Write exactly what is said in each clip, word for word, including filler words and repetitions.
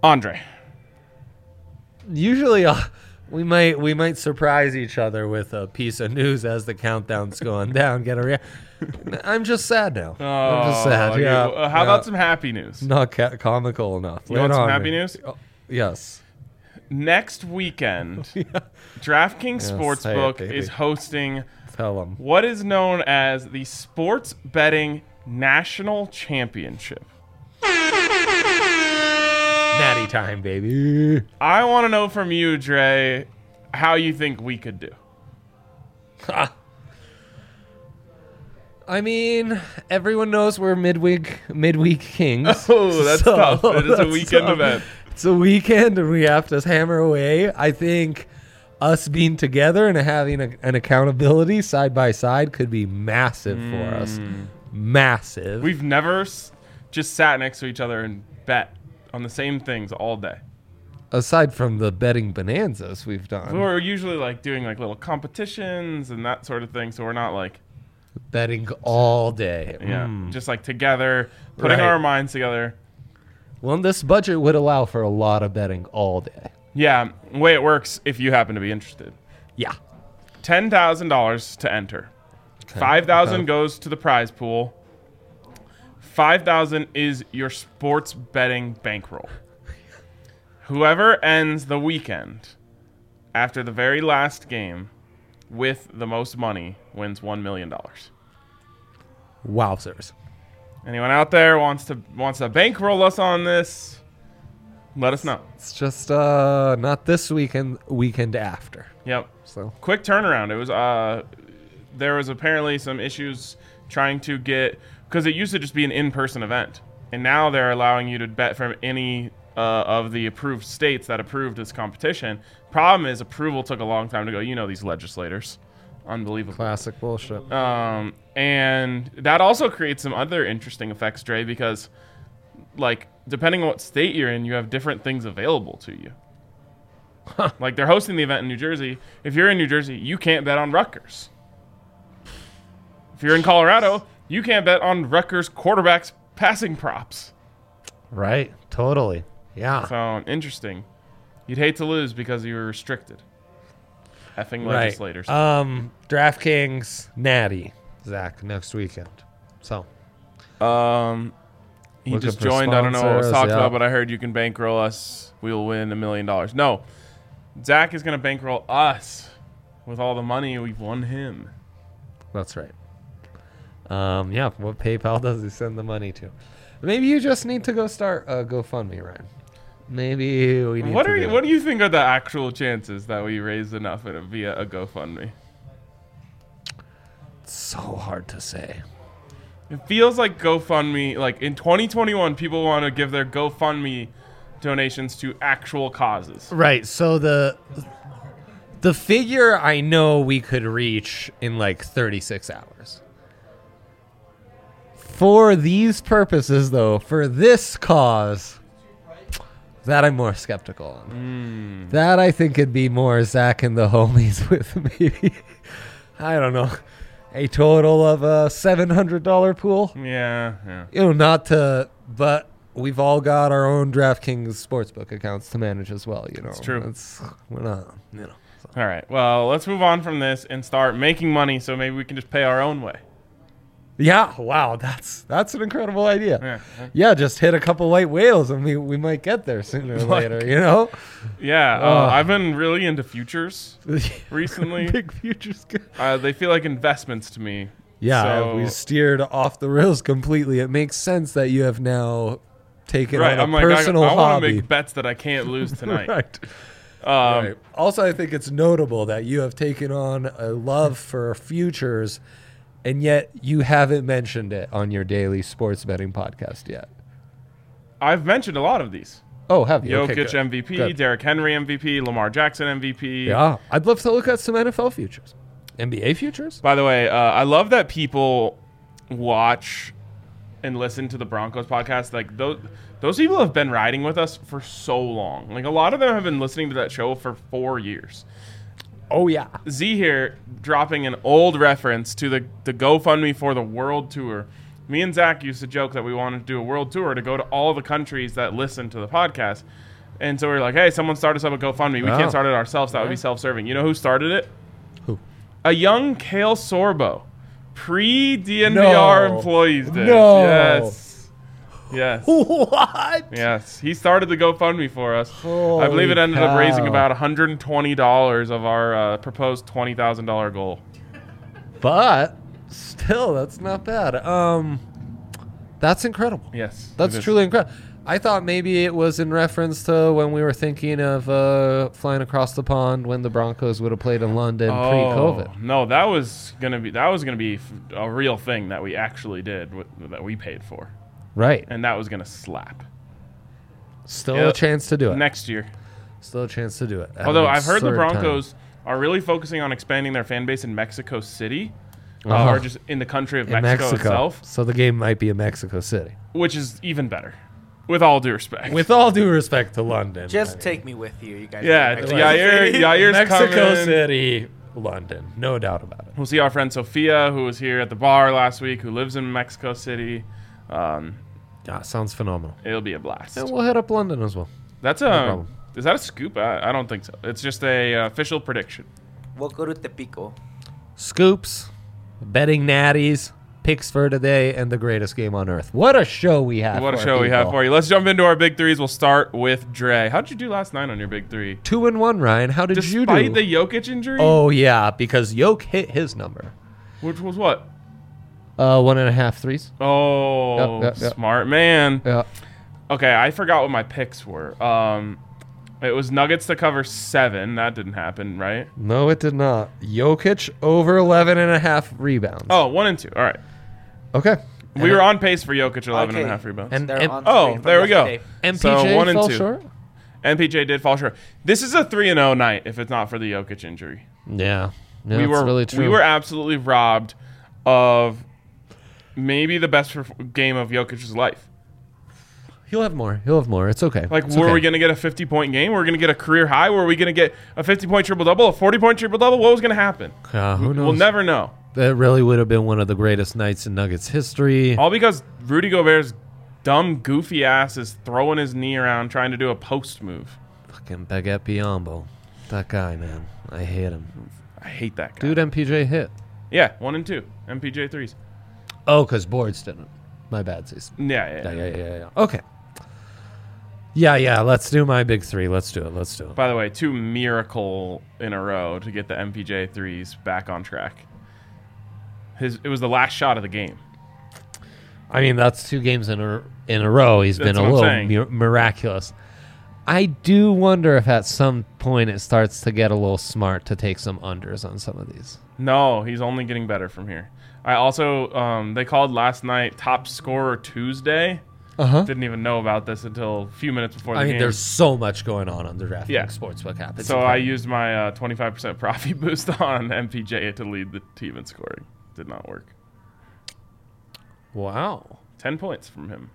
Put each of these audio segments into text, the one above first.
Andre. Usually, uh, we might we might surprise each other with a piece of news as the countdown's going down. Get a rea- I'm just sad now. Oh, I'm just sad. Yeah. uh, how yeah. about some happy news? Not ca- comical enough. You Lay want it some on happy me. news? Oh, yes. Next weekend, Yeah. DraftKings Yes, Sportsbook say it, is baby. hosting Tell them. what is known as the Sports Betting National Championship. Natty time, baby. I want to know from you, Dre, how you think we could do. I mean, everyone knows we're midweek midweek kings. Oh, that's So, tough. It is a that's weekend tough. event. It's a weekend, and we have to hammer away. I think us being together and having a, an accountability side by side could be massive for us. Massive. We've never s- just sat next to each other and bet on the same things all day. Aside from the betting bonanzas we've done, We're usually like doing like little competitions and that sort of thing, so we're not like betting all day. yeah, Mm. just like together, putting Right. our minds together. Well, this budget would allow for a lot of betting all day. Yeah, the way it works, if you happen to be interested, Yeah. ten thousand dollars to enter. Five thousand Okay. goes to the prize pool. Five thousand is your sports betting bankroll. Whoever ends the weekend after the very last game with the most money wins one million dollars. Wowzers. Anyone out there wants to wants to bankroll us on this? Let us know. It's just uh not this weekend, weekend after. Yep. So Quick turnaround. It was uh there was apparently some issues trying to get, because it used to just be an in-person event, and now they're allowing you to bet from any uh, of the approved states that approved this competition. Problem is, approval took a long time to go. You know these legislators. Unbelievable. classic bullshit. Um, and that also creates some other interesting effects, Dre, because like depending on what state you're in, you have different things available to you. Like they're hosting the event in New Jersey. If you're in New Jersey, you can't bet on Rutgers. If you're in Colorado, you can't bet on Rutgers quarterbacks passing props. Right. Totally. Yeah. So interesting. You'd hate to lose because you were restricted. Effing Right. legislators. Um, DraftKings, Natty, Zach, next weekend. So Um, he Looking just for joined. I don't know what was sponsors, talked yeah. about, but I heard you can bankroll us. We'll win a million dollars. No, Zach is going to bankroll us with all the money we've won him. that's right. Um, yeah. What PayPal does he send the money to? Maybe you just need to go start a GoFundMe, Ryan. Maybe we need What to are do you, it. what do you think are the actual chances that we raise enough in a, via a GoFundMe? It's so hard to say. It feels like GoFundMe, like in twenty twenty-one, people want to give their GoFundMe donations to actual causes. Right. So the the figure I know we could reach in like thirty-six hours. For these purposes, though, for this cause, that I'm more skeptical on. That I think it'd be more Zach and the homies with maybe, I don't know, a total of a seven hundred dollars pool. Yeah, yeah. You know, not to, but we've all got our own DraftKings sportsbook accounts to manage as well, you know. It's true. It's, we're not, you know. So. All right. Well, let's move on from this and start making money so maybe we can just pay our own way. Yeah, wow, that's that's an incredible idea. Yeah. Yeah, just hit a couple white whales and we, we might get there sooner or later, you know? Yeah, uh, Oh. I've been really into futures recently. Big futures. good. Uh, they feel like investments to me. Yeah, So- we steered off the rails completely. It makes sense that you have now taken Right. on a I'm like, I, personal I want to hobby. make bets that I can't lose tonight. right. Um, Right. Also, I think it's notable that you have taken on a love for futures, and yet you haven't mentioned it on your daily sports betting podcast yet. I've mentioned a lot of these. Oh, have you? Jokic Okay, good. M V P, Good. Derrick Henry M V P, Lamar Jackson M V P. Yeah, I'd love to look at some N F L futures, N B A futures. By the way, uh, I love that people watch and listen to the Broncos podcast. Like those, those people have been riding with us for so long. Like a lot of them have been listening to that show for four years. Oh yeah, Z here dropping an old reference to the, the GoFundMe for the World Tour. Me and Zach used to joke that we wanted to do a world tour to go to all the countries that listen to the podcast. And so we were like, hey, someone start us up a GoFundMe. We Oh. can't start it ourselves. That would be Right. self-serving. You know who started it? Who? A young Kale Sorbo. Pre-D N V R No. employees did. No. Yes. Yes. What? Yes. He started the GoFundMe for us. I Holy believe it ended up raising cow. about one hundred twenty dollars of our uh, proposed twenty thousand dollars goal. But still, that's not bad. Um, that's incredible. Yes. That's it is. truly incredible. I thought maybe it was in reference to when we were thinking of uh, flying across the pond when the Broncos would have played in London Oh, pre-COVID. no, that was gonna be that was gonna be f- a real thing that we actually did with, that we paid for, Right. and that was gonna slap Still Yeah. a chance to do it. next year. Still a chance to do it. at Although an I've heard the absurd time. Broncos are really focusing on expanding their fan base in Mexico City, uh, Uh-huh. or just in the country of in Mexico, Mexico. itself, So the game might be in Mexico City. which is even better. With all due respect. With all due respect to London. Just I take me with you, you guys. yeah, are Mexico Yair, City. Yair's Mexico coming. City, London. No doubt about it. We'll see our friend Sophia, who was here at the bar last week, who lives in Mexico City. Um, Yeah, sounds phenomenal. it'll be a blast. And we'll hit up London as well. That's a. problem. Is that a scoop? I, I don't think so. It's just a uh, official prediction. We'll go to Tepico. Scoops, betting natties, picks for today, and the greatest game on earth. What a show we have. What a for show we have people. for you. Let's jump into our big threes. We'll start with Dre. How'd you do last night on your big three? Two and one, Ryan. How did you do? Despite the Jokic injury? Oh yeah, because Yoke hit his number. Which was what? Uh, one and a half threes. Oh, Yep, yep, yep. smart man. Yeah. Okay, I forgot what my picks were. Um, it was Nuggets to cover seven. That didn't happen, right? No, it did not. Jokic over eleven and a half rebounds. Oh, one and two. All right. okay. We were on pace for Jokic eleven and a Okay. half rebounds. And- They're and- on oh, screen from there we go. yesterday. M P So, J one and fell two. short. M P J did fall short. This is a three and zero night if it's not for the Jokic injury. Yeah. Yeah, we that's were really true. we were absolutely robbed of maybe the best perf- game of Jokic's life. He'll have more. He'll have more. It's okay. Like, It's were okay. we going to get a fifty-point game? Were we going to get a career high? Were we going to get a fifty-point triple-double, a forty-point triple-double? What was going to happen? Uh, who We- knows? We'll never know. That really would have been one of the greatest nights in Nuggets history. All because Rudy Gobert's dumb, goofy ass is throwing his knee around trying to do a post move. Fucking Baguette Biombo. That guy, man. I hate him. I hate that guy. Dude, M P J hit. Yeah, one and two. M P J threes. Oh, because boards didn't. My bad, Cease. Yeah, Yeah, yeah, yeah. yeah, yeah, yeah. Okay. Yeah, yeah. Let's do my big three. Let's do it. Let's do it. By the way, two miracle in a row to get the M P J threes back on track. His It was the last shot of the game. I mean, that's two games in a in a row. He's That's been a what I'm little saying. mi- miraculous. I do wonder if at some point it starts to get a little smart to take some unders on some of these. No, he's only getting better from here. I also, um, they called last night top scorer Tuesday. Uh huh. Didn't even know about this until a few minutes before the I mean, game. there's so much going on on the DraftKings Yeah. Sportsbook app. It's so I incredible. used my uh, twenty-five percent profit boost on M P J to lead the team in scoring. Did not work. Wow. ten points from him.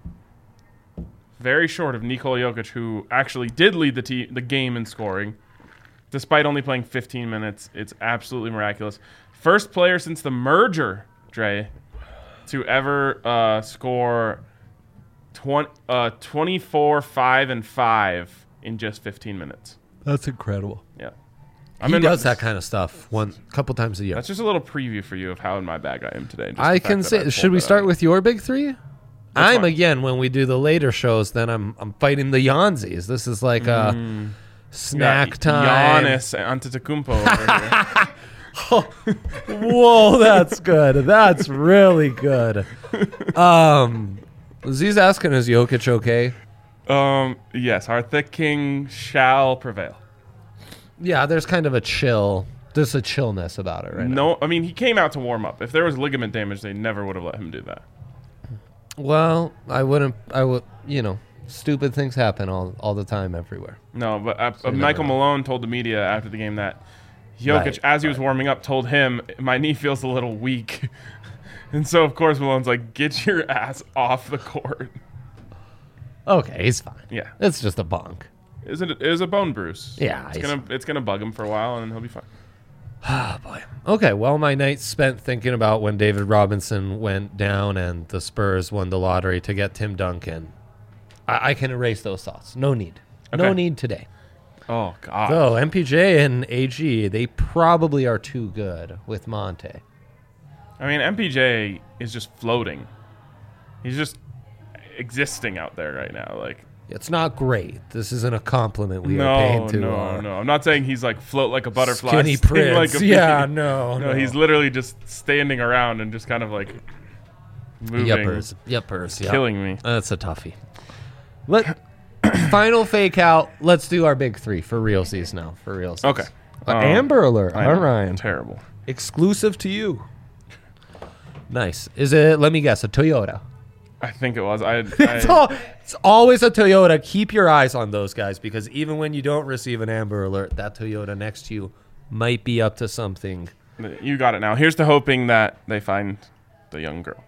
Very short of Nikola Jokic, who actually did lead the te- the game in scoring, despite only playing fifteen minutes. It's absolutely miraculous. First player since the merger, Dre, to ever uh, score twenty, uh, twenty-four, five, and five in just fifteen minutes. That's incredible. Yeah. He in does my- that kind of stuff one couple times a year. That's just a little preview for you of how in my bag I am today. just I the fact can that say. pulled Should we that start out. with your big three? That's I'm fine. again when we do the later shows. Then I'm I'm fighting the Yanzis. This is like a Mm. snack You got time. Giannis Antetokounmpo over here. Whoa, that's good. That's really good. Um, Z's asking, is Jokic okay? Um, yes, our thick king shall prevail. Yeah, there's kind of a chill. There's a chillness about it right now. No, I mean, he came out to warm up. If there was ligament damage, they never would have let him do that. Well, I wouldn't. I would. You know, stupid things happen all all the time everywhere. No, but uh, So you Michael never know. Malone told the media after the game that Jokic, Right, as he was warming up, told him, my knee feels a little weak. And so, of course, Malone's like, get your ass off the court. Okay, he's fine. Yeah. It's just a bonk. Is it, it was a bone bruise. Yeah, It's he's gonna, it's gonna bug him for a while, and then he'll be fine. Oh boy. Okay, well, my night spent thinking about when David Robinson went down and the Spurs won the lottery to get Tim Duncan. I, I can erase those thoughts. No need. No Okay. need today. Oh God. Though M P J and A G, they probably are too good with Monte. I mean, M P J is just floating. He's just existing out there right now. Like, It's not great. This isn't a compliment we are no, paying to no, uh, no. I'm not saying he's like float like a butterfly, skinny sting prince. like a bee. yeah, no, No, no. he's literally just standing around and just kind of like moving, Yuppers. Yuppers. Yep. killing me. That's a toughie. Let final fake out. Let's do our big three for realsies now. For realsies. Okay. Uh, Um, Amber Alert. I All know, right. Terrible. Exclusive to you. Nice. Is it? Let me guess. A Toyota. I think it was. I. It's, I all, it's always a Toyota. Keep your eyes on those guys because even when you don't receive an Amber Alert, that Toyota next to you might be up to something. you got it now. Here's to hoping that they find the young girl.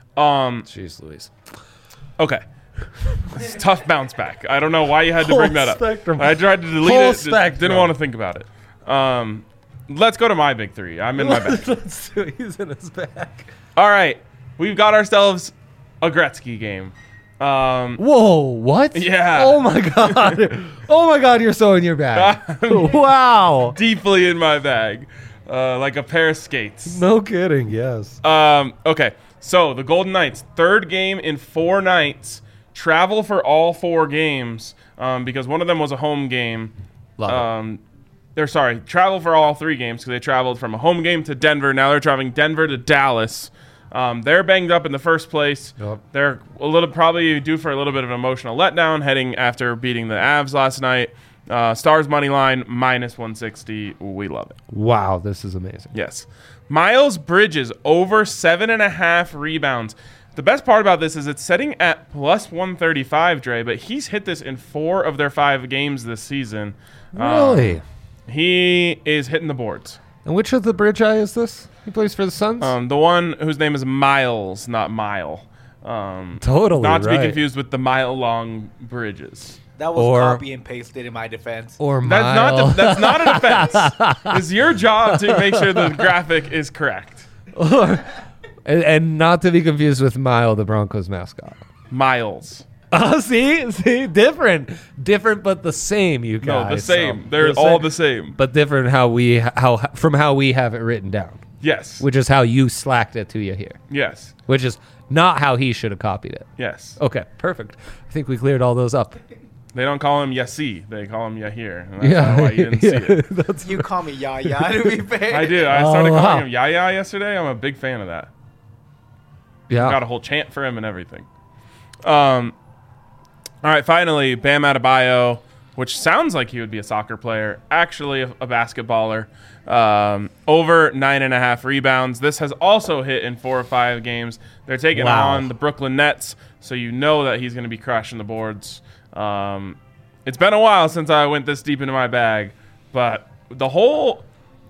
Um. Jeez Louise. Okay. It's a tough bounce back. I don't know why you had to Whole bring that up. spectrum. I tried to delete Whole it. just spectrum. Didn't want to think about it. Um. Let's go to my big three. I'm in my bag. Let's do it. He's in his back. All right. We've got ourselves a Gretzky game. Um. Whoa, what? Yeah. Oh my god. Oh my god, you're so in your bag. Wow. Deeply in my bag. Uh, like a pair of skates. No kidding, yes. Um, okay, so the Golden Knights, third game in four nights, travel for all four games um, because one of them was a home game. Love it. Um, they're sorry, travel for all three games because they traveled from a home game to Denver. Now they're traveling Denver to Dallas. Um, they're banged up in the first place. Yep. They're a little probably due for a little bit of an emotional letdown heading after beating the Avs last night. Uh, Stars money line minus one sixty. We love it. Wow, this is amazing. Yes. Miles Bridges over seven and a half rebounds. The best part about this is it's setting at plus one thirty-five, Dre, but he's hit this in four of their five games this season. Really? Um, he is hitting the boards. And which of the Bridge Eye is this? He plays for the Suns? Um, the one whose name is Miles, not Mile. Um, Totally Not to right. be confused with the mile-long Bridges. That was Or- copy and pasted in my defense. or That's Mile. not, de- that's not a defense. It's your job to make sure the graphic is correct. Or- and, and not to be confused with Mile, the Broncos mascot. Miles. Oh, see? See? Different. Different but the same, you No, guys. the same. So, They're the all same, the same. but different how we how from how we have it written down, Yes. which is how you slacked it to you here, Yes. which is not how he should have copied it. Yes. Okay, perfect. I think we cleared all those up. They don't call him Yassi. They call him Yahir. And that's Yeah, why you didn't yeah, see it. that's You call me Yaya to be fair. I did. I started Oh, wow. calling him Yaya yesterday. I'm a big fan of that. yeah. Got a whole chant for him and everything. Um. All right. Finally, Bam Adebayo, which sounds like he would be a soccer player, actually a, a basketballer. Um, over nine and a half rebounds. This has also hit in four or five games. They're taking Wow. on the Brooklyn Nets, so you know that he's going to be crashing the boards. Um, it's been a while since I went this deep into my bag, but the whole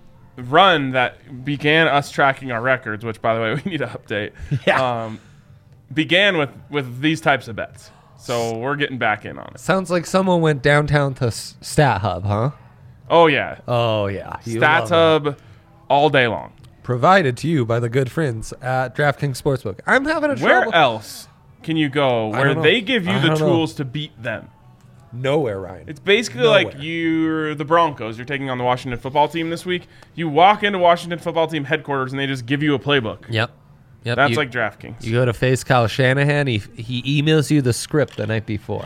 run that began us tracking our records, which by the way we need to update, Yeah. um, began with with these types of bets. So we're getting back in on it. Sounds like someone went downtown to S- Stat Hub, huh? Oh yeah, Oh yeah. You love Stats that. Hub all day long. Provided to you by the good friends at DraftKings Sportsbook. I'm having a Where trouble. else can you go I where don't know. they give you I the don't know. tools to beat them? Nowhere, Ryan. It's basically Nowhere. like you're the Broncos. You're taking on the Washington football team this week. You walk into Washington football team headquarters and they just give you a playbook. Yep. Yep. That's you, like DraftKings. you go to face Kyle Shanahan. He he emails you the script the night before.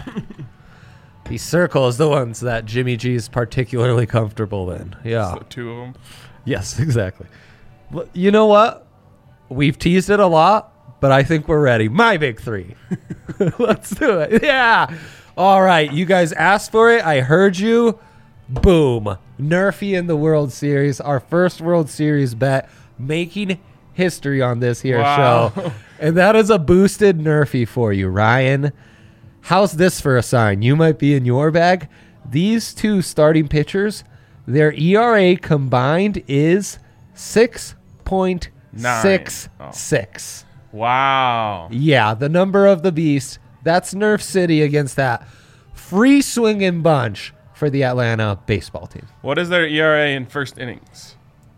He circles the ones that Jimmy G is particularly comfortable in. Yeah. So two of them. Yes, exactly. Well, you know what? We've teased it a lot, but I think we're ready. My big three. Let's do it. Yeah. All right. You guys asked for it. I heard you. Boom. Nerfy in the World Series. Our first World Series bet. Making history on this here Wow. show. And that is a boosted Nerfy for you, Ryan. How's this for a sign? You might be in your bag. These two starting pitchers, their E R A combined is six point six six. Wow. Yeah, the number of the beast. That's Nerf City against that free swinging bunch for the Atlanta baseball team. What is their E R A in first innings?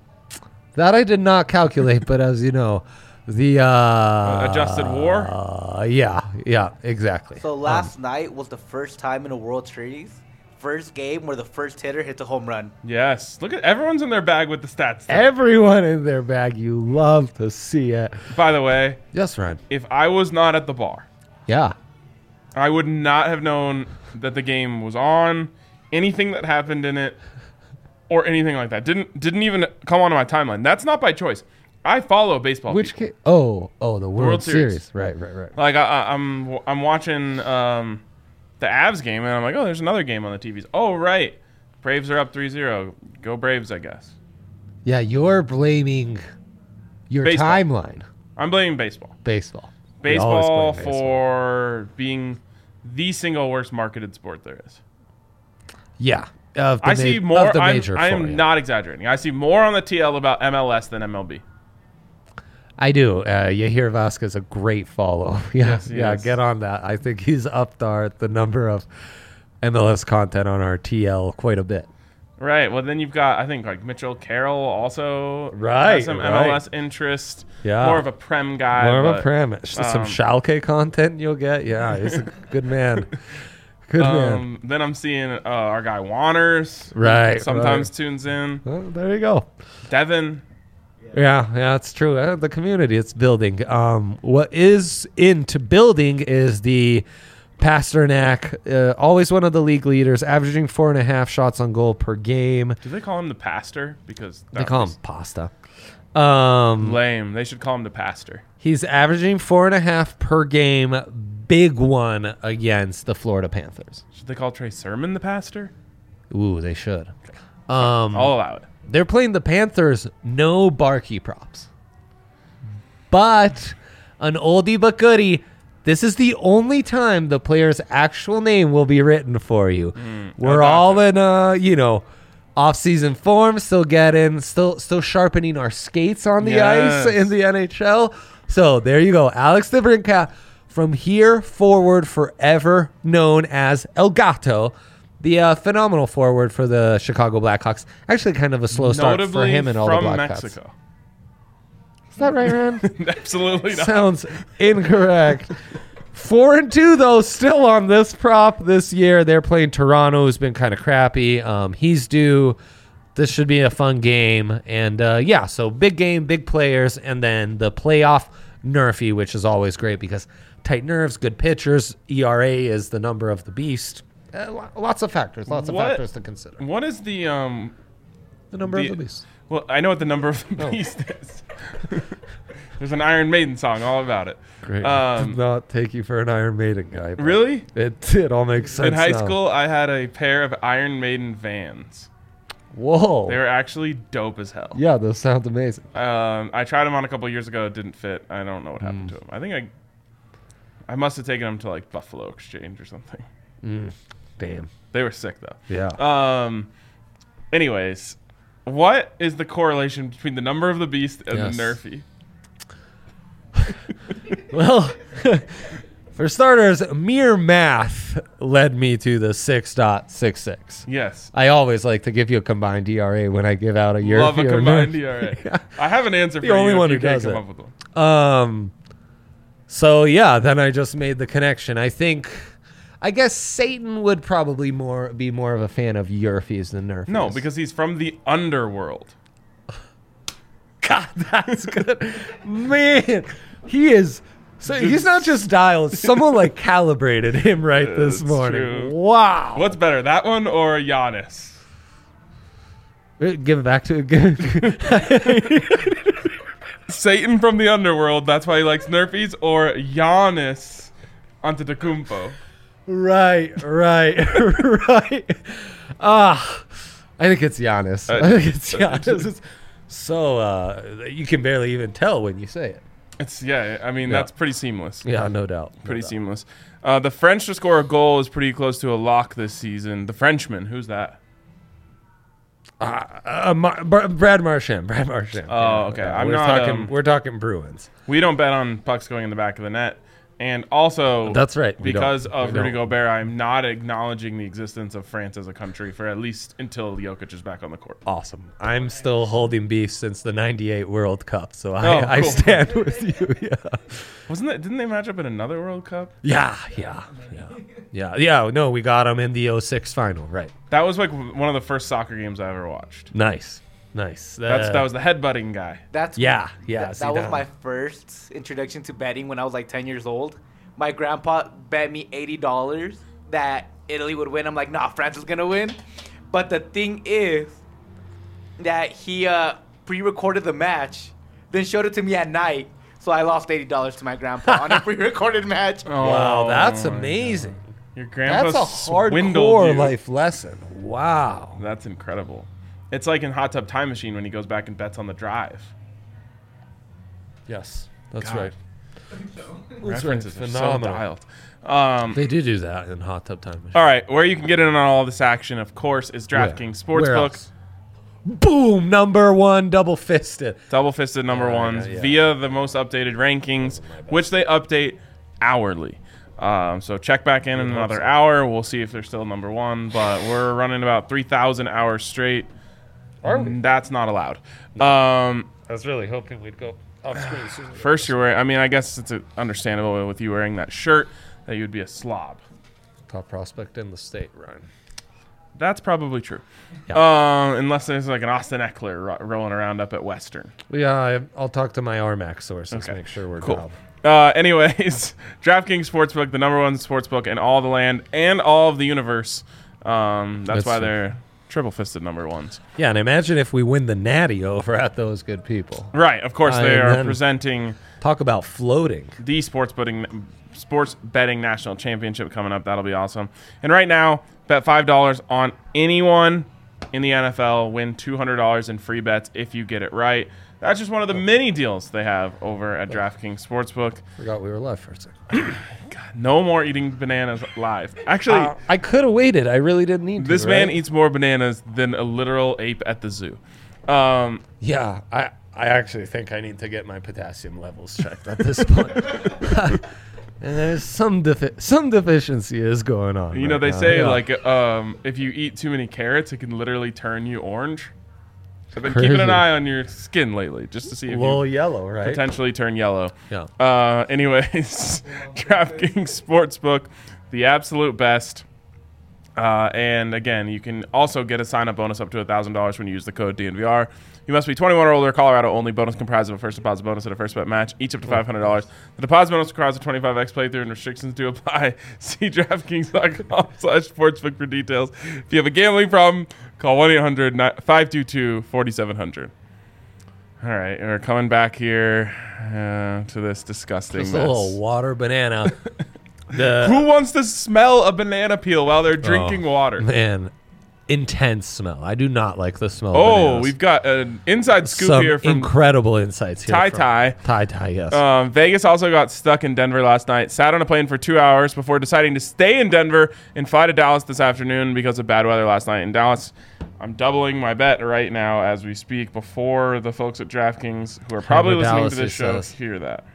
That I did not calculate, but as you know, the uh, Adjusted W A R? Uh, yeah, yeah, exactly. So last night was the first time in a World Series first game where the first hitter hits a home run. Yes. Look at everyone's in their bag with the stats. today. Everyone in their bag. You love to see it. By the way, Yes, Ryan. if I was not at the bar, Yeah. I would not have known that the game was on, anything that happened in it, or anything like that. Didn't didn't even come onto my timeline. That's not by choice. I follow baseball. Which people. ca- Oh, oh, the World, World Series. Series. Right, right, right. Like I, I, I'm I'm watching um, the Avs game, and I'm like, oh, there's another game on the T Vs. Oh, right. Braves are up three zero. Go Braves, I guess. Yeah, you're blaming your Baseball. timeline. I'm blaming baseball. Baseball. We always Baseball blame baseball. for being the single worst marketed sport there is. Yeah. Of the I ma- see more. Of the I'm, major I four, am yeah. not exaggerating. I see more on the T L about M L S than M L B. I do. Uh, Yahir Vasquez, a great follow. Yeah, Yes, he yeah. is. Get on that. I think he's up there at the number of M L S content on our T L quite a bit. Right. Well, then you've got I think like Mitchell Carroll also Right, has some right. M L S interest. Yeah. More of a prem guy. More of a but, premise. Some um, Schalke content you'll get. Yeah, he's a good man. Good man. Um, then I'm seeing uh, our guy Wanners. who Right, Sometimes right. tunes in. Well, there you go. Devin. Yeah, yeah, it's true. Uh, the community, it's building. Um, what is into building is the Pasternak, uh, always one of the league leaders, averaging four and a half shots on goal per game. Do they call him the pastor? Because They that call him was Pasta. Um, lame. They should call him the pastor. he's averaging four and a half per game. Big one against the Florida Panthers. Should they call Trey Sermon the pastor? Ooh, they should. Um, I'll allow it. They're playing the Panthers, no Barkey props. But an oldie but goodie, this is the only time the player's actual name will be written for you. We're I all gotcha. in, uh, you know, off-season form, still getting, still, still sharpening our skates on the Yes. ice in the N H L. So there you go, Alex DeBrincat, from here forward forever known as El Gato. The uh, phenomenal forward for the Chicago Blackhawks. Actually, kind of a slow start Notably for him and all the from Blackhawks. Mexico. Is that right, Ryan? Absolutely not. Sounds incorrect. Four and two though, still on this prop this year. They're playing Toronto, who's been kind of crappy. Um, he's due. This should be a fun game, and uh, yeah, so big game, big players, and then the playoff Nerfy, which is always great because tight nerves, good pitchers. E R A is the number of the beast. Uh, lo- lots of factors, lots of What- factors to consider. What is the um? The number the- of the beast. Well, I know what the number of the Oh. beast is. There's an Iron Maiden song all about it. Great. Um, Did not take you for an Iron Maiden guy. but Really? It it all makes sense In high now. school, I had a pair of Iron Maiden Vans. Whoa. They were actually dope as hell. Yeah, those sound amazing. Um, I tried them on a couple years ago. It didn't fit. I don't know what happened to them. I think I, I must have taken them to like Buffalo Exchange or something. Damn. They were sick though. Yeah. Um. Anyways, what is the correlation between the number of the beast and Yes. the Nerfy? Well, for starters, mere math led me to the six point six six. Yes. I always like to give you a combined E R A when I give out a year. Love a year combined nerf. E R A. I have an answer The for only you one if you who can't does come it. up with one. Um. So yeah, then I just made the connection. I think, I guess Satan would probably more be more of a fan of Yerfies than Nerfies. No, because he's from the underworld. God, that's good. Man, he is. So he's not just dialed. Someone like calibrated him right this It's morning. true. Wow. What's better, that one or Giannis? Uh, Give it back to. Give, Satan from the underworld, that's why he likes Nerfies, or Giannis Antetokounmpo. right, right, right. Ah, I think it's Giannis. Uh, I think it's Giannis. It's so uh, you can barely even tell when you say it. It's yeah, I mean Yeah. that's pretty seamless. Yeah, no doubt. no Pretty doubt. seamless. Uh, the French to score a goal is pretty close to a lock this season. The Frenchman, who's that? Uh, uh, Mar- Br- Brad Marchand. Brad Marchand. Oh, okay. I'm we're not, talking. um, we're talking Bruins. We don't bet on pucks going in the back of the net. And also, That's right. We because don't- of we Rudy don't. Gobert, I'm not acknowledging the existence of France as a country for at least until Jokic is back on the court. Awesome. I'm still holding beef since the ninety-eight World Cup, so I, Oh, I cool. stand with you. Yeah. Wasn't it? Didn't they match up in another World Cup? Yeah, yeah, yeah, yeah, yeah. No, we got them in the oh six final, right? That was like one of the first soccer games I ever watched. Nice, nice. That's Uh, that was the headbutting guy. That's Yeah, yeah. That, see, that was my first introduction to betting when I was like ten years old. My grandpa bet me eighty dollars that Italy would win. I'm like, nah, France is gonna win. But the thing is that he uh, pre-recorded the match, then showed it to me at night. So I lost eighty dollars to my grandpa on a pre-recorded match. Wow, that's Oh my amazing. God. Your grandpa That's a swindled hardcore you. life lesson. Wow. That's incredible. It's like in Hot Tub Time Machine when he goes back and bets on the drive. Yes, that's God. right. References are so Phenomenal. dialed. Um, They do do that in Hot Tub Time Machine. all right, where you can get in on all this action, of course, is DraftKings Where Sportsbook. else? Boom, number one, double fisted. Double fisted number Yeah, ones yeah, yeah. via the most updated rankings, which they update hourly. Um, so check back in in hope another so. hour. We'll see if they're still number one, but we're running about three thousand hours straight. Are we? That's not allowed. Um, I was really hoping we'd go off screen soon. first, you're wearing, I mean, I guess it's uh understandable with you wearing that shirt that you'd be a slob. Top prospect in the state, Ryan. That's probably true. Yeah. Uh, unless there's like an Austin Eckler ro- rolling around up at Western. Yeah, I, I'll talk to my R MAX sources, Okay. make sure we're Cool. dialed. Uh, anyways, DraftKings Sportsbook, the number one sportsbook in all the land and all of the universe. Um, that's, That's why true. they're triple fisted number ones. Yeah, and imagine if we win the Natty over at those good people. Right. Of course, Uh, they and are then- presenting Talk about floating. the sports betting sports betting national championship coming up. That'll be awesome. And right now, bet five dollars on anyone in the N F L. Win two hundred dollars in free bets if you get it right. That's just one of the many deals they have over at DraftKings Sportsbook. Forgot we were live for a second. No more eating bananas live. Actually, Uh, I could have waited. I really didn't need to. this man right? eats more bananas than a literal ape at the zoo. Um, Yeah, I, I actually think I need to get my potassium levels checked at this point. And there's some defi- some deficiency is going on. you know, right they now. say Yeah. like um, if you eat too many carrots, it can literally turn you orange. I've been Crazy. keeping an eye on your skin lately, just to see a if little you yellow, right? potentially turn yellow. Yeah. Uh, anyways, DraftKings Sportsbook, the absolute best. Uh, and again, you can also get a sign-up bonus up to one thousand dollars when you use the code D N V R. You must be twenty-one or older, Colorado only. Bonus comprised of a first deposit bonus and a first bet match, each up to five hundred dollars. The deposit bonus requires a twenty-five x playthrough and restrictions do apply. See DraftKings.com slash sportsbook for details. If you have a gambling problem, call one eight hundred five two two four seven zero zero. All right, we're coming back here uh, to this disgusting Just a mess. little water banana. the Who wants to smell a banana peel while they're drinking Oh, water? Man, intense smell. I do not like the smell. Oh, of bananas. we've got an inside scoop some here from incredible insights here. Tai from- Tai. Tai Tai, yes. Um, Vegas also got stuck in Denver last night. Sat on a plane for two hours before deciding to stay in Denver and fly to Dallas this afternoon because of bad weather last night in Dallas. I'm doubling my bet right now as we speak before the folks at DraftKings who are probably Hammer listening Dallas, to this he show says. hear that.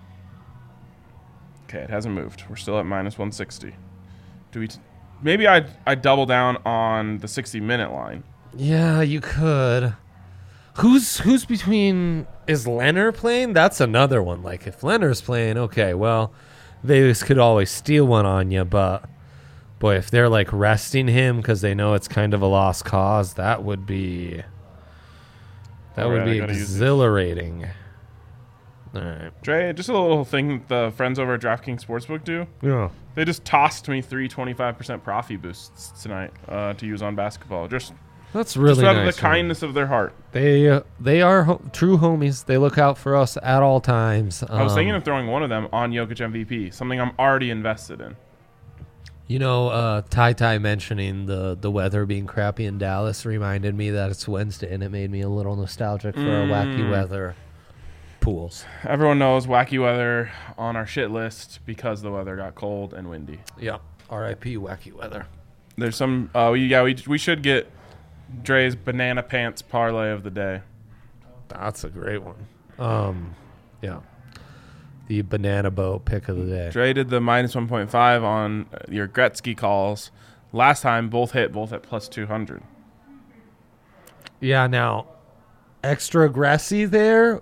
Okay, it hasn't moved. We're still at minus one sixty. Do we? T- maybe I I double down on the sixty minute line. Yeah, you could. Who's who's between? Is Leonard playing? That's another one. Like if Leonard's playing, okay, well, Vegas could always steal one on you. But boy, if they're like resting him because they know it's kind of a lost cause, that would be that All would right, I be gotta use this. exhilarating. All right. Dre, just a little thing the friends over at DraftKings Sportsbook do. Yeah. They just tossed me three twenty-five percent profit boosts tonight uh, to use on basketball. Just, That's really just out of nice. the man. kindness of their heart. They uh, they are ho- true homies. They look out for us at all times. I was Um, thinking of throwing one of them on Jokic M V P, something I'm already invested in. You know, uh, Tai Tai mentioning the, the weather being crappy in Dallas reminded me that it's Wednesday, and it made me a little nostalgic for our wacky Mm. weather pools. Everyone knows wacky weather on our shit list because the weather got cold and windy. Yeah. R I P wacky weather. There's some, uh, we, yeah, we, we should get Dre's banana pants parlay of the day. That's a great one. Um, yeah. the banana boat pick of the day. Dre did the minus one point five on your Gretzky calls. Last time, both hit, both at plus two hundred. Yeah, now, extra aggressive there.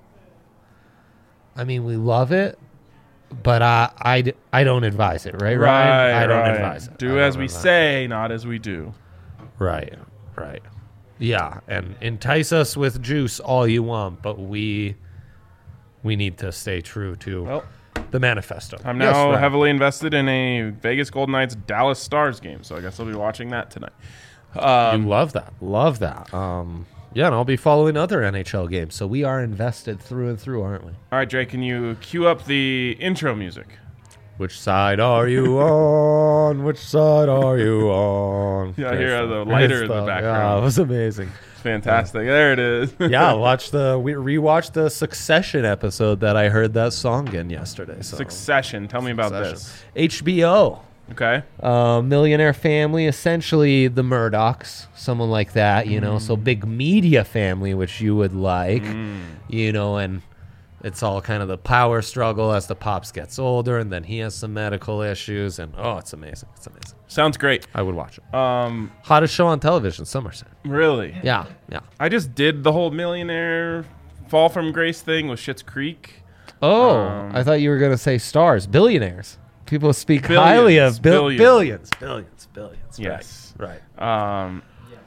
I mean, we love it, but I, I, I don't advise it, right, Ryan? I don't right. advise it. Do I as don't we advise say, not as we do. it. Right, right. Yeah, and entice us with juice all you want, but we we need to stay true to Well, the manifesto. I'm Yes, now Ryan. heavily invested in a Vegas Golden Knights Dallas Stars game, so I guess I'll be watching that tonight. Um, you love that. Love that. Um, yeah, and I'll be following other N H L games, so we are invested through and through, aren't we? all right, Dre, can you cue up the intro music? Which side are you on? Which side are you on? Yeah, I Great hear stuff. the Great lighter in the stuff. background. Yeah, it was amazing. Fantastic. There it is. Yeah, watch the we rewatched the Succession episode that I heard that song in yesterday. So Succession. Tell me about Succession. this. H B O, Okay. uh, millionaire family, essentially the Murdochs, someone like that, you know. So big media family, which you would like, you know, and it's all kind of the power struggle as the pops gets older, and then he has some medical issues, and oh, it's amazing. It's amazing. Sounds great. I would watch it. Um, Hottest show on television, Somerset. really? Yeah, yeah. I just did the whole millionaire fall from grace thing with Schitt's Creek. Oh, Um, I thought you were going to say stars, billionaires. People speak Billions, highly of bil- billions. billions, billions, billions. Yes. Right. right. Um,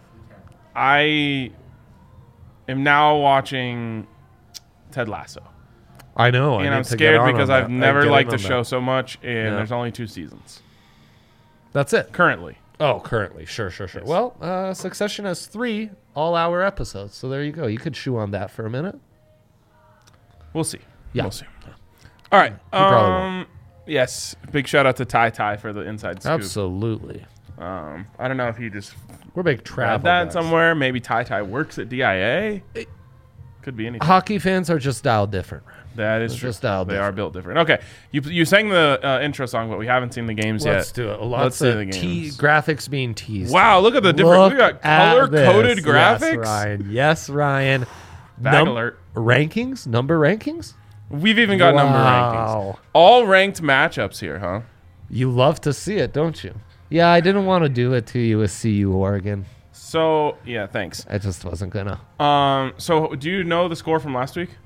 I am now watching Ted Lasso. I know. I and need I'm to get scared on because on I've that. never I get liked in the on show that. so much, and Yeah. there's only two seasons That's it. currently. Oh, currently. Sure, sure, sure. Yes. Well, uh, Succession has three all-hour episodes, so there you go. You could chew on that for a minute. We'll see. Yeah. We'll see. All right. probably Um, yes. Big shout out to Ty Ty for the inside scoop. Absolutely. Um, I don't know if he just We're big read travel that guys. somewhere. Maybe Ty Ty works at D I A. Could be anything. Hockey fans are just dialed different. That is It's true. just dialed They are different. built different. Okay. You you sang the uh, intro song, but we haven't seen the games Let's yet. do it. Let's Lots see of the te- games. graphics being teased. Wow, look at the different. Look We got at color coded this. graphics. Yes, Ryan. Yes, Ryan. Bag alert. Rankings? Number rankings? We've even got number rankings. Wow. All ranked matchups here, huh? You love to see it, don't you? Yeah, I didn't want to do it to you with C U Oregon. So yeah, thanks. I just wasn't gonna. Um, so do you know the score from last week?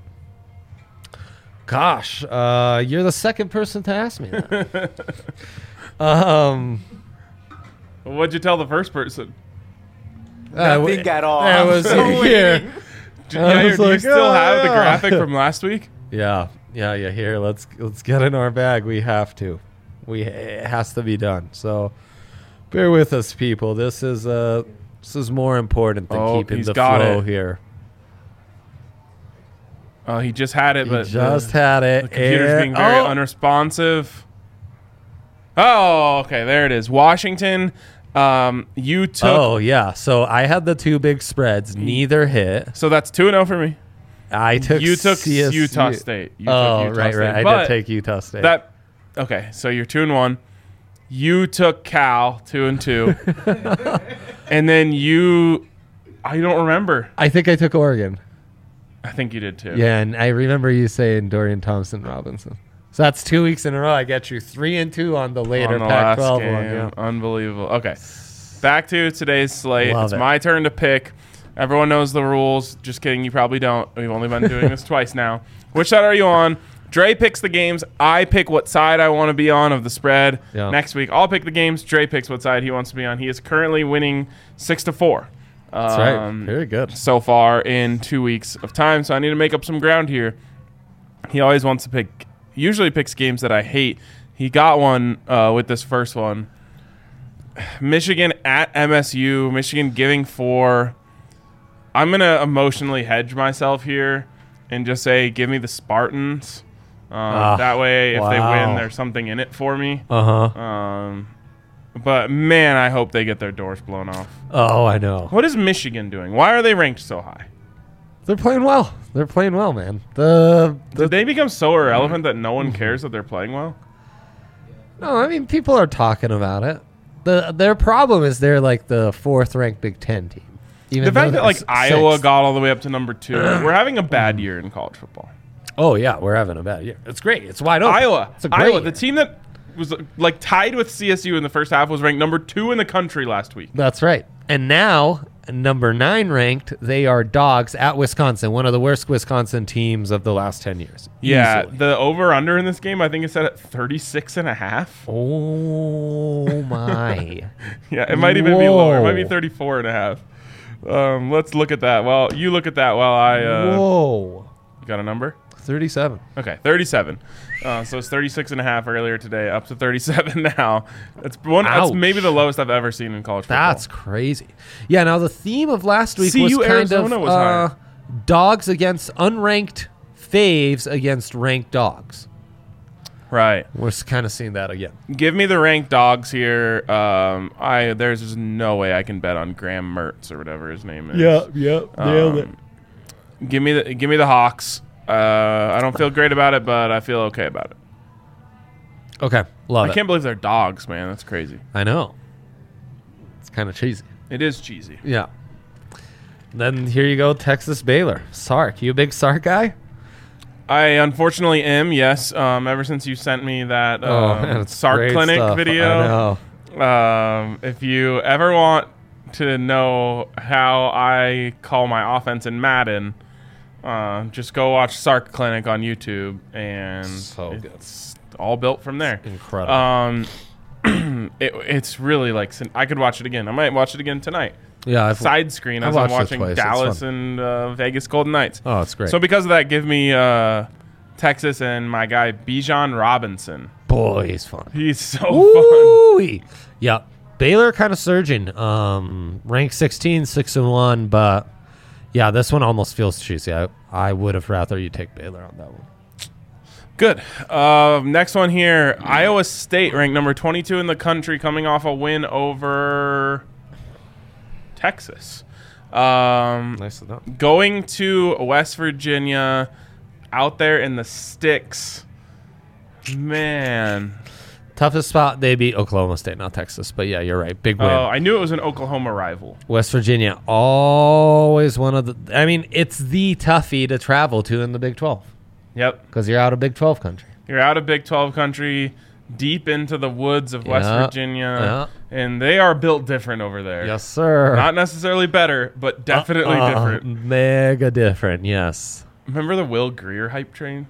Gosh, uh, you're the second person to ask me that. um, What'd you tell the first person? uh, Nothing at all. I was So here. Do, I yeah, was do you like, still "Oh, have the yeah." graphic from last week? Yeah, yeah, yeah. Here, let's let's get in our bag. We have to. We it has to be done. So, bear with us, people. This is uh this is more important than Oh, keeping he's the got flow it. here. Oh, he just had it, He but just the, had it. the computer's and- being very oh, unresponsive. Oh, okay, there it is. Washington, um, you took. oh yeah. So I had the two big spreads. Neither hit. So that's two and zero for me. I took You took C S U. Utah State. You took oh Utah right, State. right. I But did take Utah State. that. Okay, so you're two and one. You took Cal two and two, and then you. I don't remember. I think I took Oregon. I think you did too. Yeah, and I remember you saying Dorian Thompson Robinson. So that's two weeks in a row. I get you three and two on the later on the Pac last twelve game. one. Yeah. Unbelievable. Okay. Back to today's slate. Love it's it. my turn to pick. Everyone knows the rules. Just kidding. You probably don't. We've only been doing this twice now. Which side are you on? Dre picks the games. I pick what side I want to be on of the spread. Yeah. Next week, I'll pick the games. Dre picks what side he wants to be on. He is currently winning six to four. That's um, right. Very good. So far in two weeks of time. So I need to make up some ground here. He always wants to pick, usually picks games that I hate. He got one uh, with this first one. Michigan at M S U. Michigan giving four. I'm going to emotionally hedge myself here and just say, give me the Spartans. Um, Ah, that way, if they wow. win, there's something in it for me. Uh huh. Um, but, man, I hope they get their doors blown off. Oh, I know. What is Michigan doing? Why are they ranked so high? They're playing well. They're playing well, man. The, the Did they become so irrelevant that no one cares that they're playing well? no, I mean people are talking about it. The their problem is they're like the fourth ranked Big Ten team. Even The though fact that they're like s- Iowa sixth. got all the way up to number two, we're having a bad year in college football. Oh yeah, we're having a bad year. It's great. It's wide open. Iowa. It's a great Iowa. year. The team that was like tied with C S U in the first half was ranked number two in the country last week. That's right. And now, number nine ranked, they are dogs at Wisconsin, one of the worst Wisconsin teams of the last ten years. Yeah, Easily. the over-under in this game, I think it's set at thirty-six and a half. Oh, my. Yeah, it might even be lower. It might be Whoa. thirty-four and a half. Um, let's look at that. Well, you look at that while I... Uh, Whoa. you got a number? thirty-seven. Okay, thirty-seven. Uh, so it's thirty-six and a half earlier today, up to thirty-seven now. That's one. That's Ouch. maybe the lowest I've ever seen in college football. That's crazy. Yeah, now the theme of last week C U was kind Arizona of was uh, higher. dogs against unranked faves against ranked dogs. right. We're kind of seeing that again. Give me the ranked dogs here. Um, I there's just no way I can bet on Graham Mertz or whatever his name is. yeah, Um, Give me the give me the Hawks. Uh, I don't feel great about it, but I feel okay about it. Okay, love I it. can't believe they're dogs, man. That's crazy. I know. It's kind of cheesy. It is cheesy. Yeah. Then here you go, Texas Baylor. Sark, you a big Sark guy? I unfortunately am. Yes. Um, ever since you sent me that um, Oh, man, it's Sark great Clinic stuff. video. I know. Um, if you ever want to know how I call my offense in Madden, uh, just go watch Sark Clinic on YouTube, and So good. it's all built from there. Incredible. Um, it, it's really like I could watch it again. I might watch it again tonight. yeah, I've, Side screen I've as I'm watched it watching twice. It's Dallas fun. and uh, Vegas Golden Knights. oh, it's great. So because of that, give me uh, Texas and my guy Bijan Robinson. Boy, he's fun. He's so fun. Ooh-wee. Yeah. Baylor kind of surging. Um, ranked sixteen, six and one, but yeah, this one almost feels cheesy. I, I would have rather you take Baylor on that one. Good. Uh, next one here. Iowa State ranked number twenty-two in the country, coming off a win over Texas. Um, Nicely done. going to West Virginia, out there in the sticks. Man. Toughest spot, they beat Oklahoma State, not Texas. But yeah, you're right. Big win. Oh, I knew it was an Oklahoma rival. West Virginia, always one of the. I mean, it's the toughie to travel to in the Big twelve Yep. because you're out of Big twelve country. You're out of Big twelve country, deep into the woods of West Yeah, Virginia, and they are built different over there. Yes, sir. Not necessarily better, but definitely Uh, different. Mega different, yes. Remember the Will Greer hype train?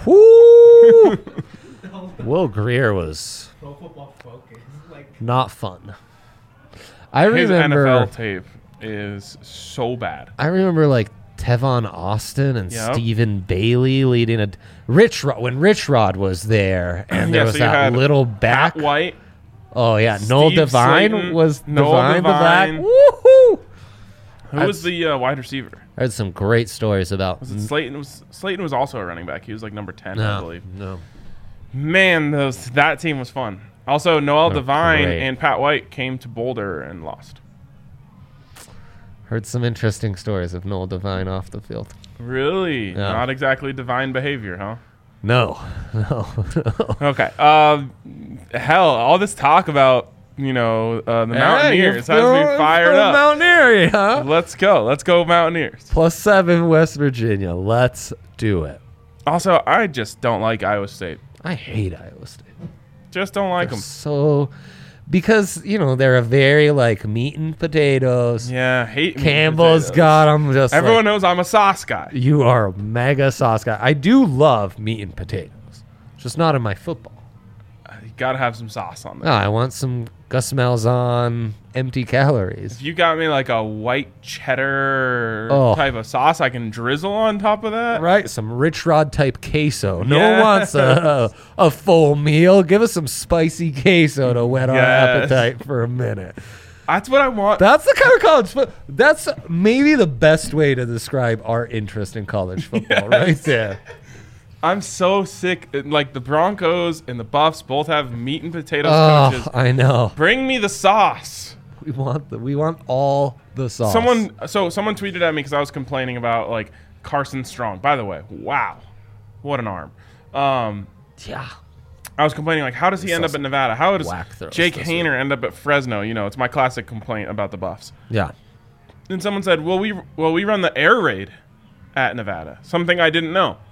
Woo! Will Greer was Pro Football Focus. Like, not fun. I His remember. N F L tape is so bad. I remember like Tevon Austin and Yep. Stephen Bailey leading a Rich Rod when Rich Rod was there, and there Yeah, was so you that had little back. Pat White. Oh yeah, Noel Steve Devine Slayton, was Noel Devine, the back. Devine. Woohoo! Who was the uh, wide receiver? I heard some great stories about. Was it Slayton? Was Slayton was also a running back? He was like number ten, I no, believe. no. Man, those that team was fun. Also, Noel They're Devine great. and Pat White came to Boulder and lost. Heard some interesting stories of Noel Devine off the field. Really? Yeah. Not exactly divine behavior, huh? No, no. Okay. Um, hell, all this talk about you know uh, the Mountaineers has me fired up. Mountaineer, huh? Let's go. Let's go Mountaineers. Plus seven, West Virginia. Let's do it. Also, I just don't like Iowa State. I hate Iowa State. Just don't like They're them. So, because you know they're a very like meat and potatoes. Yeah, hate me Campbell's potatoes. got them. Just Everyone like, knows I'm a sauce guy. you are a mega sauce guy. I do love meat and potatoes, just not in my football. You gotta have some sauce on No, there. I want some Gus Malzahn empty calories. If you got me like a white cheddar Oh. type of sauce, I can drizzle on top of that. Right, some Rich Rod type queso. No Yes. one wants a, a full meal. Give us some spicy queso to whet our Yes. appetite for a minute. That's what I want. That's the kind of college football. That's maybe the best way to describe our interest in college football, right there. I'm so sick. Like the Broncos and the Buffs both have meat and potatoes Oh, coaches. I know. Bring me the sauce. We want the we want all the sauce. Someone, so someone tweeted at me because I was complaining about like Carson Strong. By the way, wow, what an arm. Um, yeah. I was complaining like, how does he end up some at Nevada? How does whack throws Jake this Hayner end up at Fresno? You know, it's my classic complaint about the Buffs. Yeah. Then someone said, well, we well we run the air raid at Nevada, something I didn't know.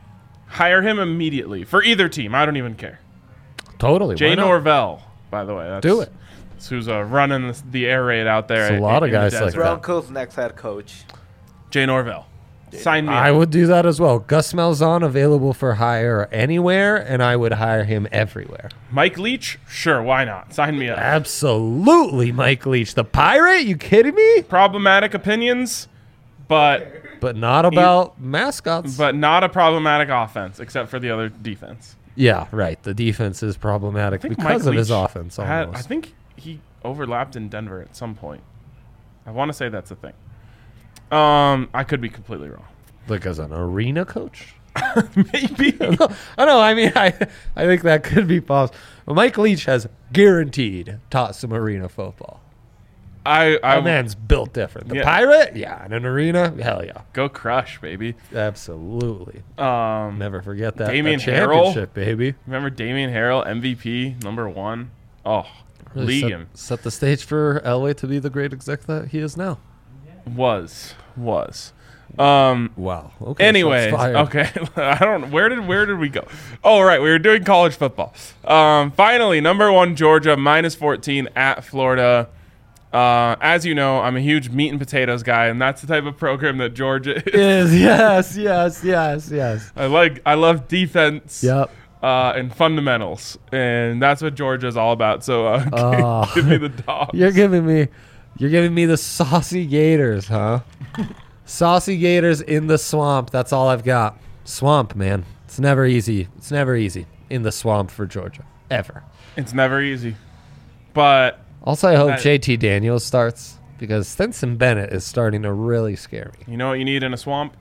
Hire him immediately for either team. I don't even care. Totally. Jay why not? Norvell, by the way. That's, Do it. That's who's uh, running the, the air raid out there. There's a lot in, of in the guys like desert. that. Broncos next head coach. Jay Norvell. Sign me I up. would do that as well. Gus Malzahn available for hire anywhere, and I would hire him everywhere. Mike Leach? Sure, why not? Sign me up. Absolutely, Mike Leach. The Pirate? You kidding me? Problematic opinions, but But not about mascots. but not a problematic offense, except for the other defense. yeah, right. The defense is problematic think because Mike of his Leach offense Had, almost. I think he overlapped in Denver at some point. I want to say that's a thing. Um, I could be completely wrong. Like as an arena coach? Maybe. I know. I mean, I I think that could be possible. But Mike Leach has guaranteed taught some arena football. I I That man's built different. The Yeah. Pirate? Yeah. In an arena? Hell yeah. go crush, baby. Absolutely. Um, Never forget that, Damian that Harrell? championship, baby. remember Damian Harrell, M V P, number one? Oh, Really league set, him. set the stage for Elway to be the great exec that he is now. Was was. Um. Wow. Okay. Anyways, shots fired. okay. I don't. Where did where did we go? Oh, right. We were doing college football. Um. Finally, number one Georgia minus fourteen at Florida. Uh, as you know, I'm a huge meat and potatoes guy, and that's the type of program that Georgia is. Is yes, yes, yes, yes. I like. I love defense. Yep. Uh, and fundamentals, and that's what Georgia's all about. So uh, Oh. give me the dogs. You're giving me, you're giving me the saucy Gators, huh? Saucy Gators in the swamp. That's all I've got. Swamp, man. It's never easy. It's never easy in the swamp for Georgia, ever. It's never easy, but Also, I hope That- J T Daniels starts because Stetson Bennett is starting to really scare me. you know what you need in a swamp?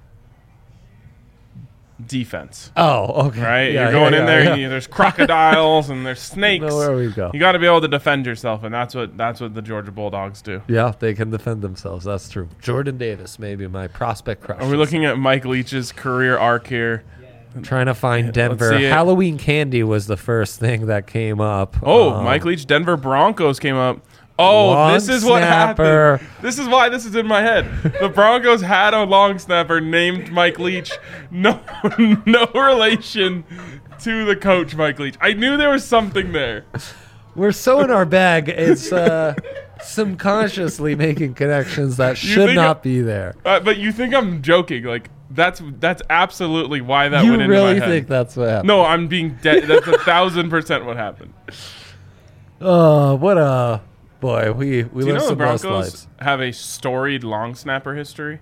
Defense. Oh, okay. Right? Yeah, You're going yeah, in yeah, there. yeah. You, there's crocodiles and there's snakes. Know where we go. You got to be able to defend yourself, and that's what that's what the Georgia Bulldogs do. Yeah, they can defend themselves. That's true. Jordan Davis, maybe my prospect crush. Are we looking at Mike Leach's career arc here? Trying to find Denver. see it. Halloween candy was the first thing that came up. Oh, Um, Mike Leach, Denver Broncos came up. Oh, Long this is what snapper. happened. This is why this is in my head. The Broncos had a long snapper named Mike Leach. No, no relation to the coach, Mike Leach. I knew there was something there. We're so in our bag. It's uh, subconsciously making connections that You should think not I- be there. Uh, but you think I'm joking? Like that's that's absolutely why that You went into really my head. think that's what happened? No, I'm being dead. That's a thousand percent what happened. Oh, what a boy. We we Do you live know the some blessed Broncos lives. have a storied long snapper history?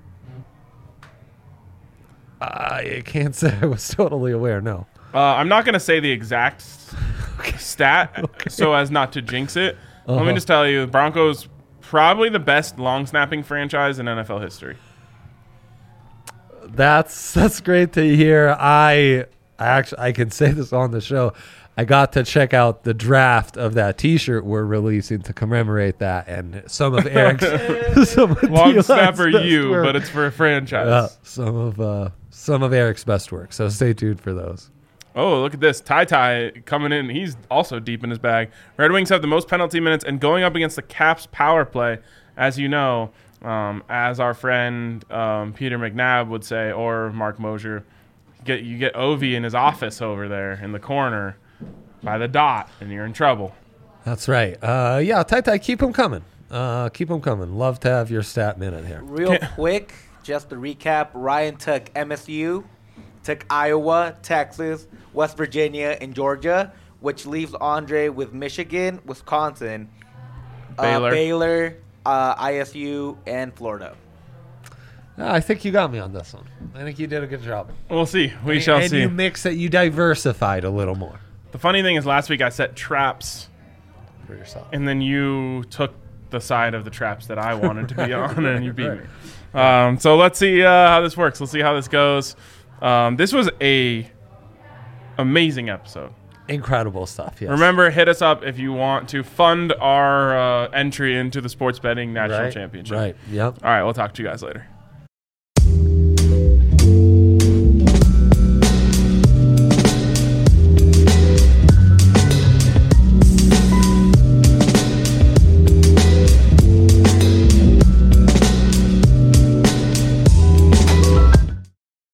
I can't say I was totally aware. No. Uh, I'm not going to say the exact s- stat so as not to jinx it. Let me Uh-huh. just tell you, the Broncos probably the best long snapping franchise in N F L history. That's that's great to hear. I I actually I can say this on the show. I got to check out the draft of that T-shirt we're releasing to commemorate that, and some of Eric's some of Long D-Line's snapper best you, work. but it's for a franchise. Uh, some of uh, some of Eric's best work. So stay tuned for those. Oh, look at this. Ty Ty coming in. He's also deep in his bag. Red Wings have the most penalty minutes and going up against the Caps power play, as you know, um, as our friend um, Peter McNabb would say, or Mark Mosier, you get, you get Ovi in his office over there in the corner by the dot, and you're in trouble. That's right. Uh, yeah, Tai Tai, keep them coming. Uh, keep them coming. Love to have your stat minute here. Real quick, just to recap, Ryan took M S U, took Iowa, Texas, West Virginia, and Georgia, which leaves Andre with Michigan, Wisconsin, Baylor. uh, Baylor, uh, I S U, and Florida. Uh, I think you got me on this one. I think you did a good job. We'll see. We and, shall and see. you mix it. You diversified a little more The funny thing is last week I set traps, for yourself. and then you took the side of the traps that I wanted to be on, and you beat me. Um, so let's see uh, how this works. Let's see how this goes. Um, this was a amazing episode. Incredible stuff. Yes. Remember, hit us up if you want to fund our uh, entry into the sports betting national right? championship. Right. Yep. All right, we'll talk to you guys later.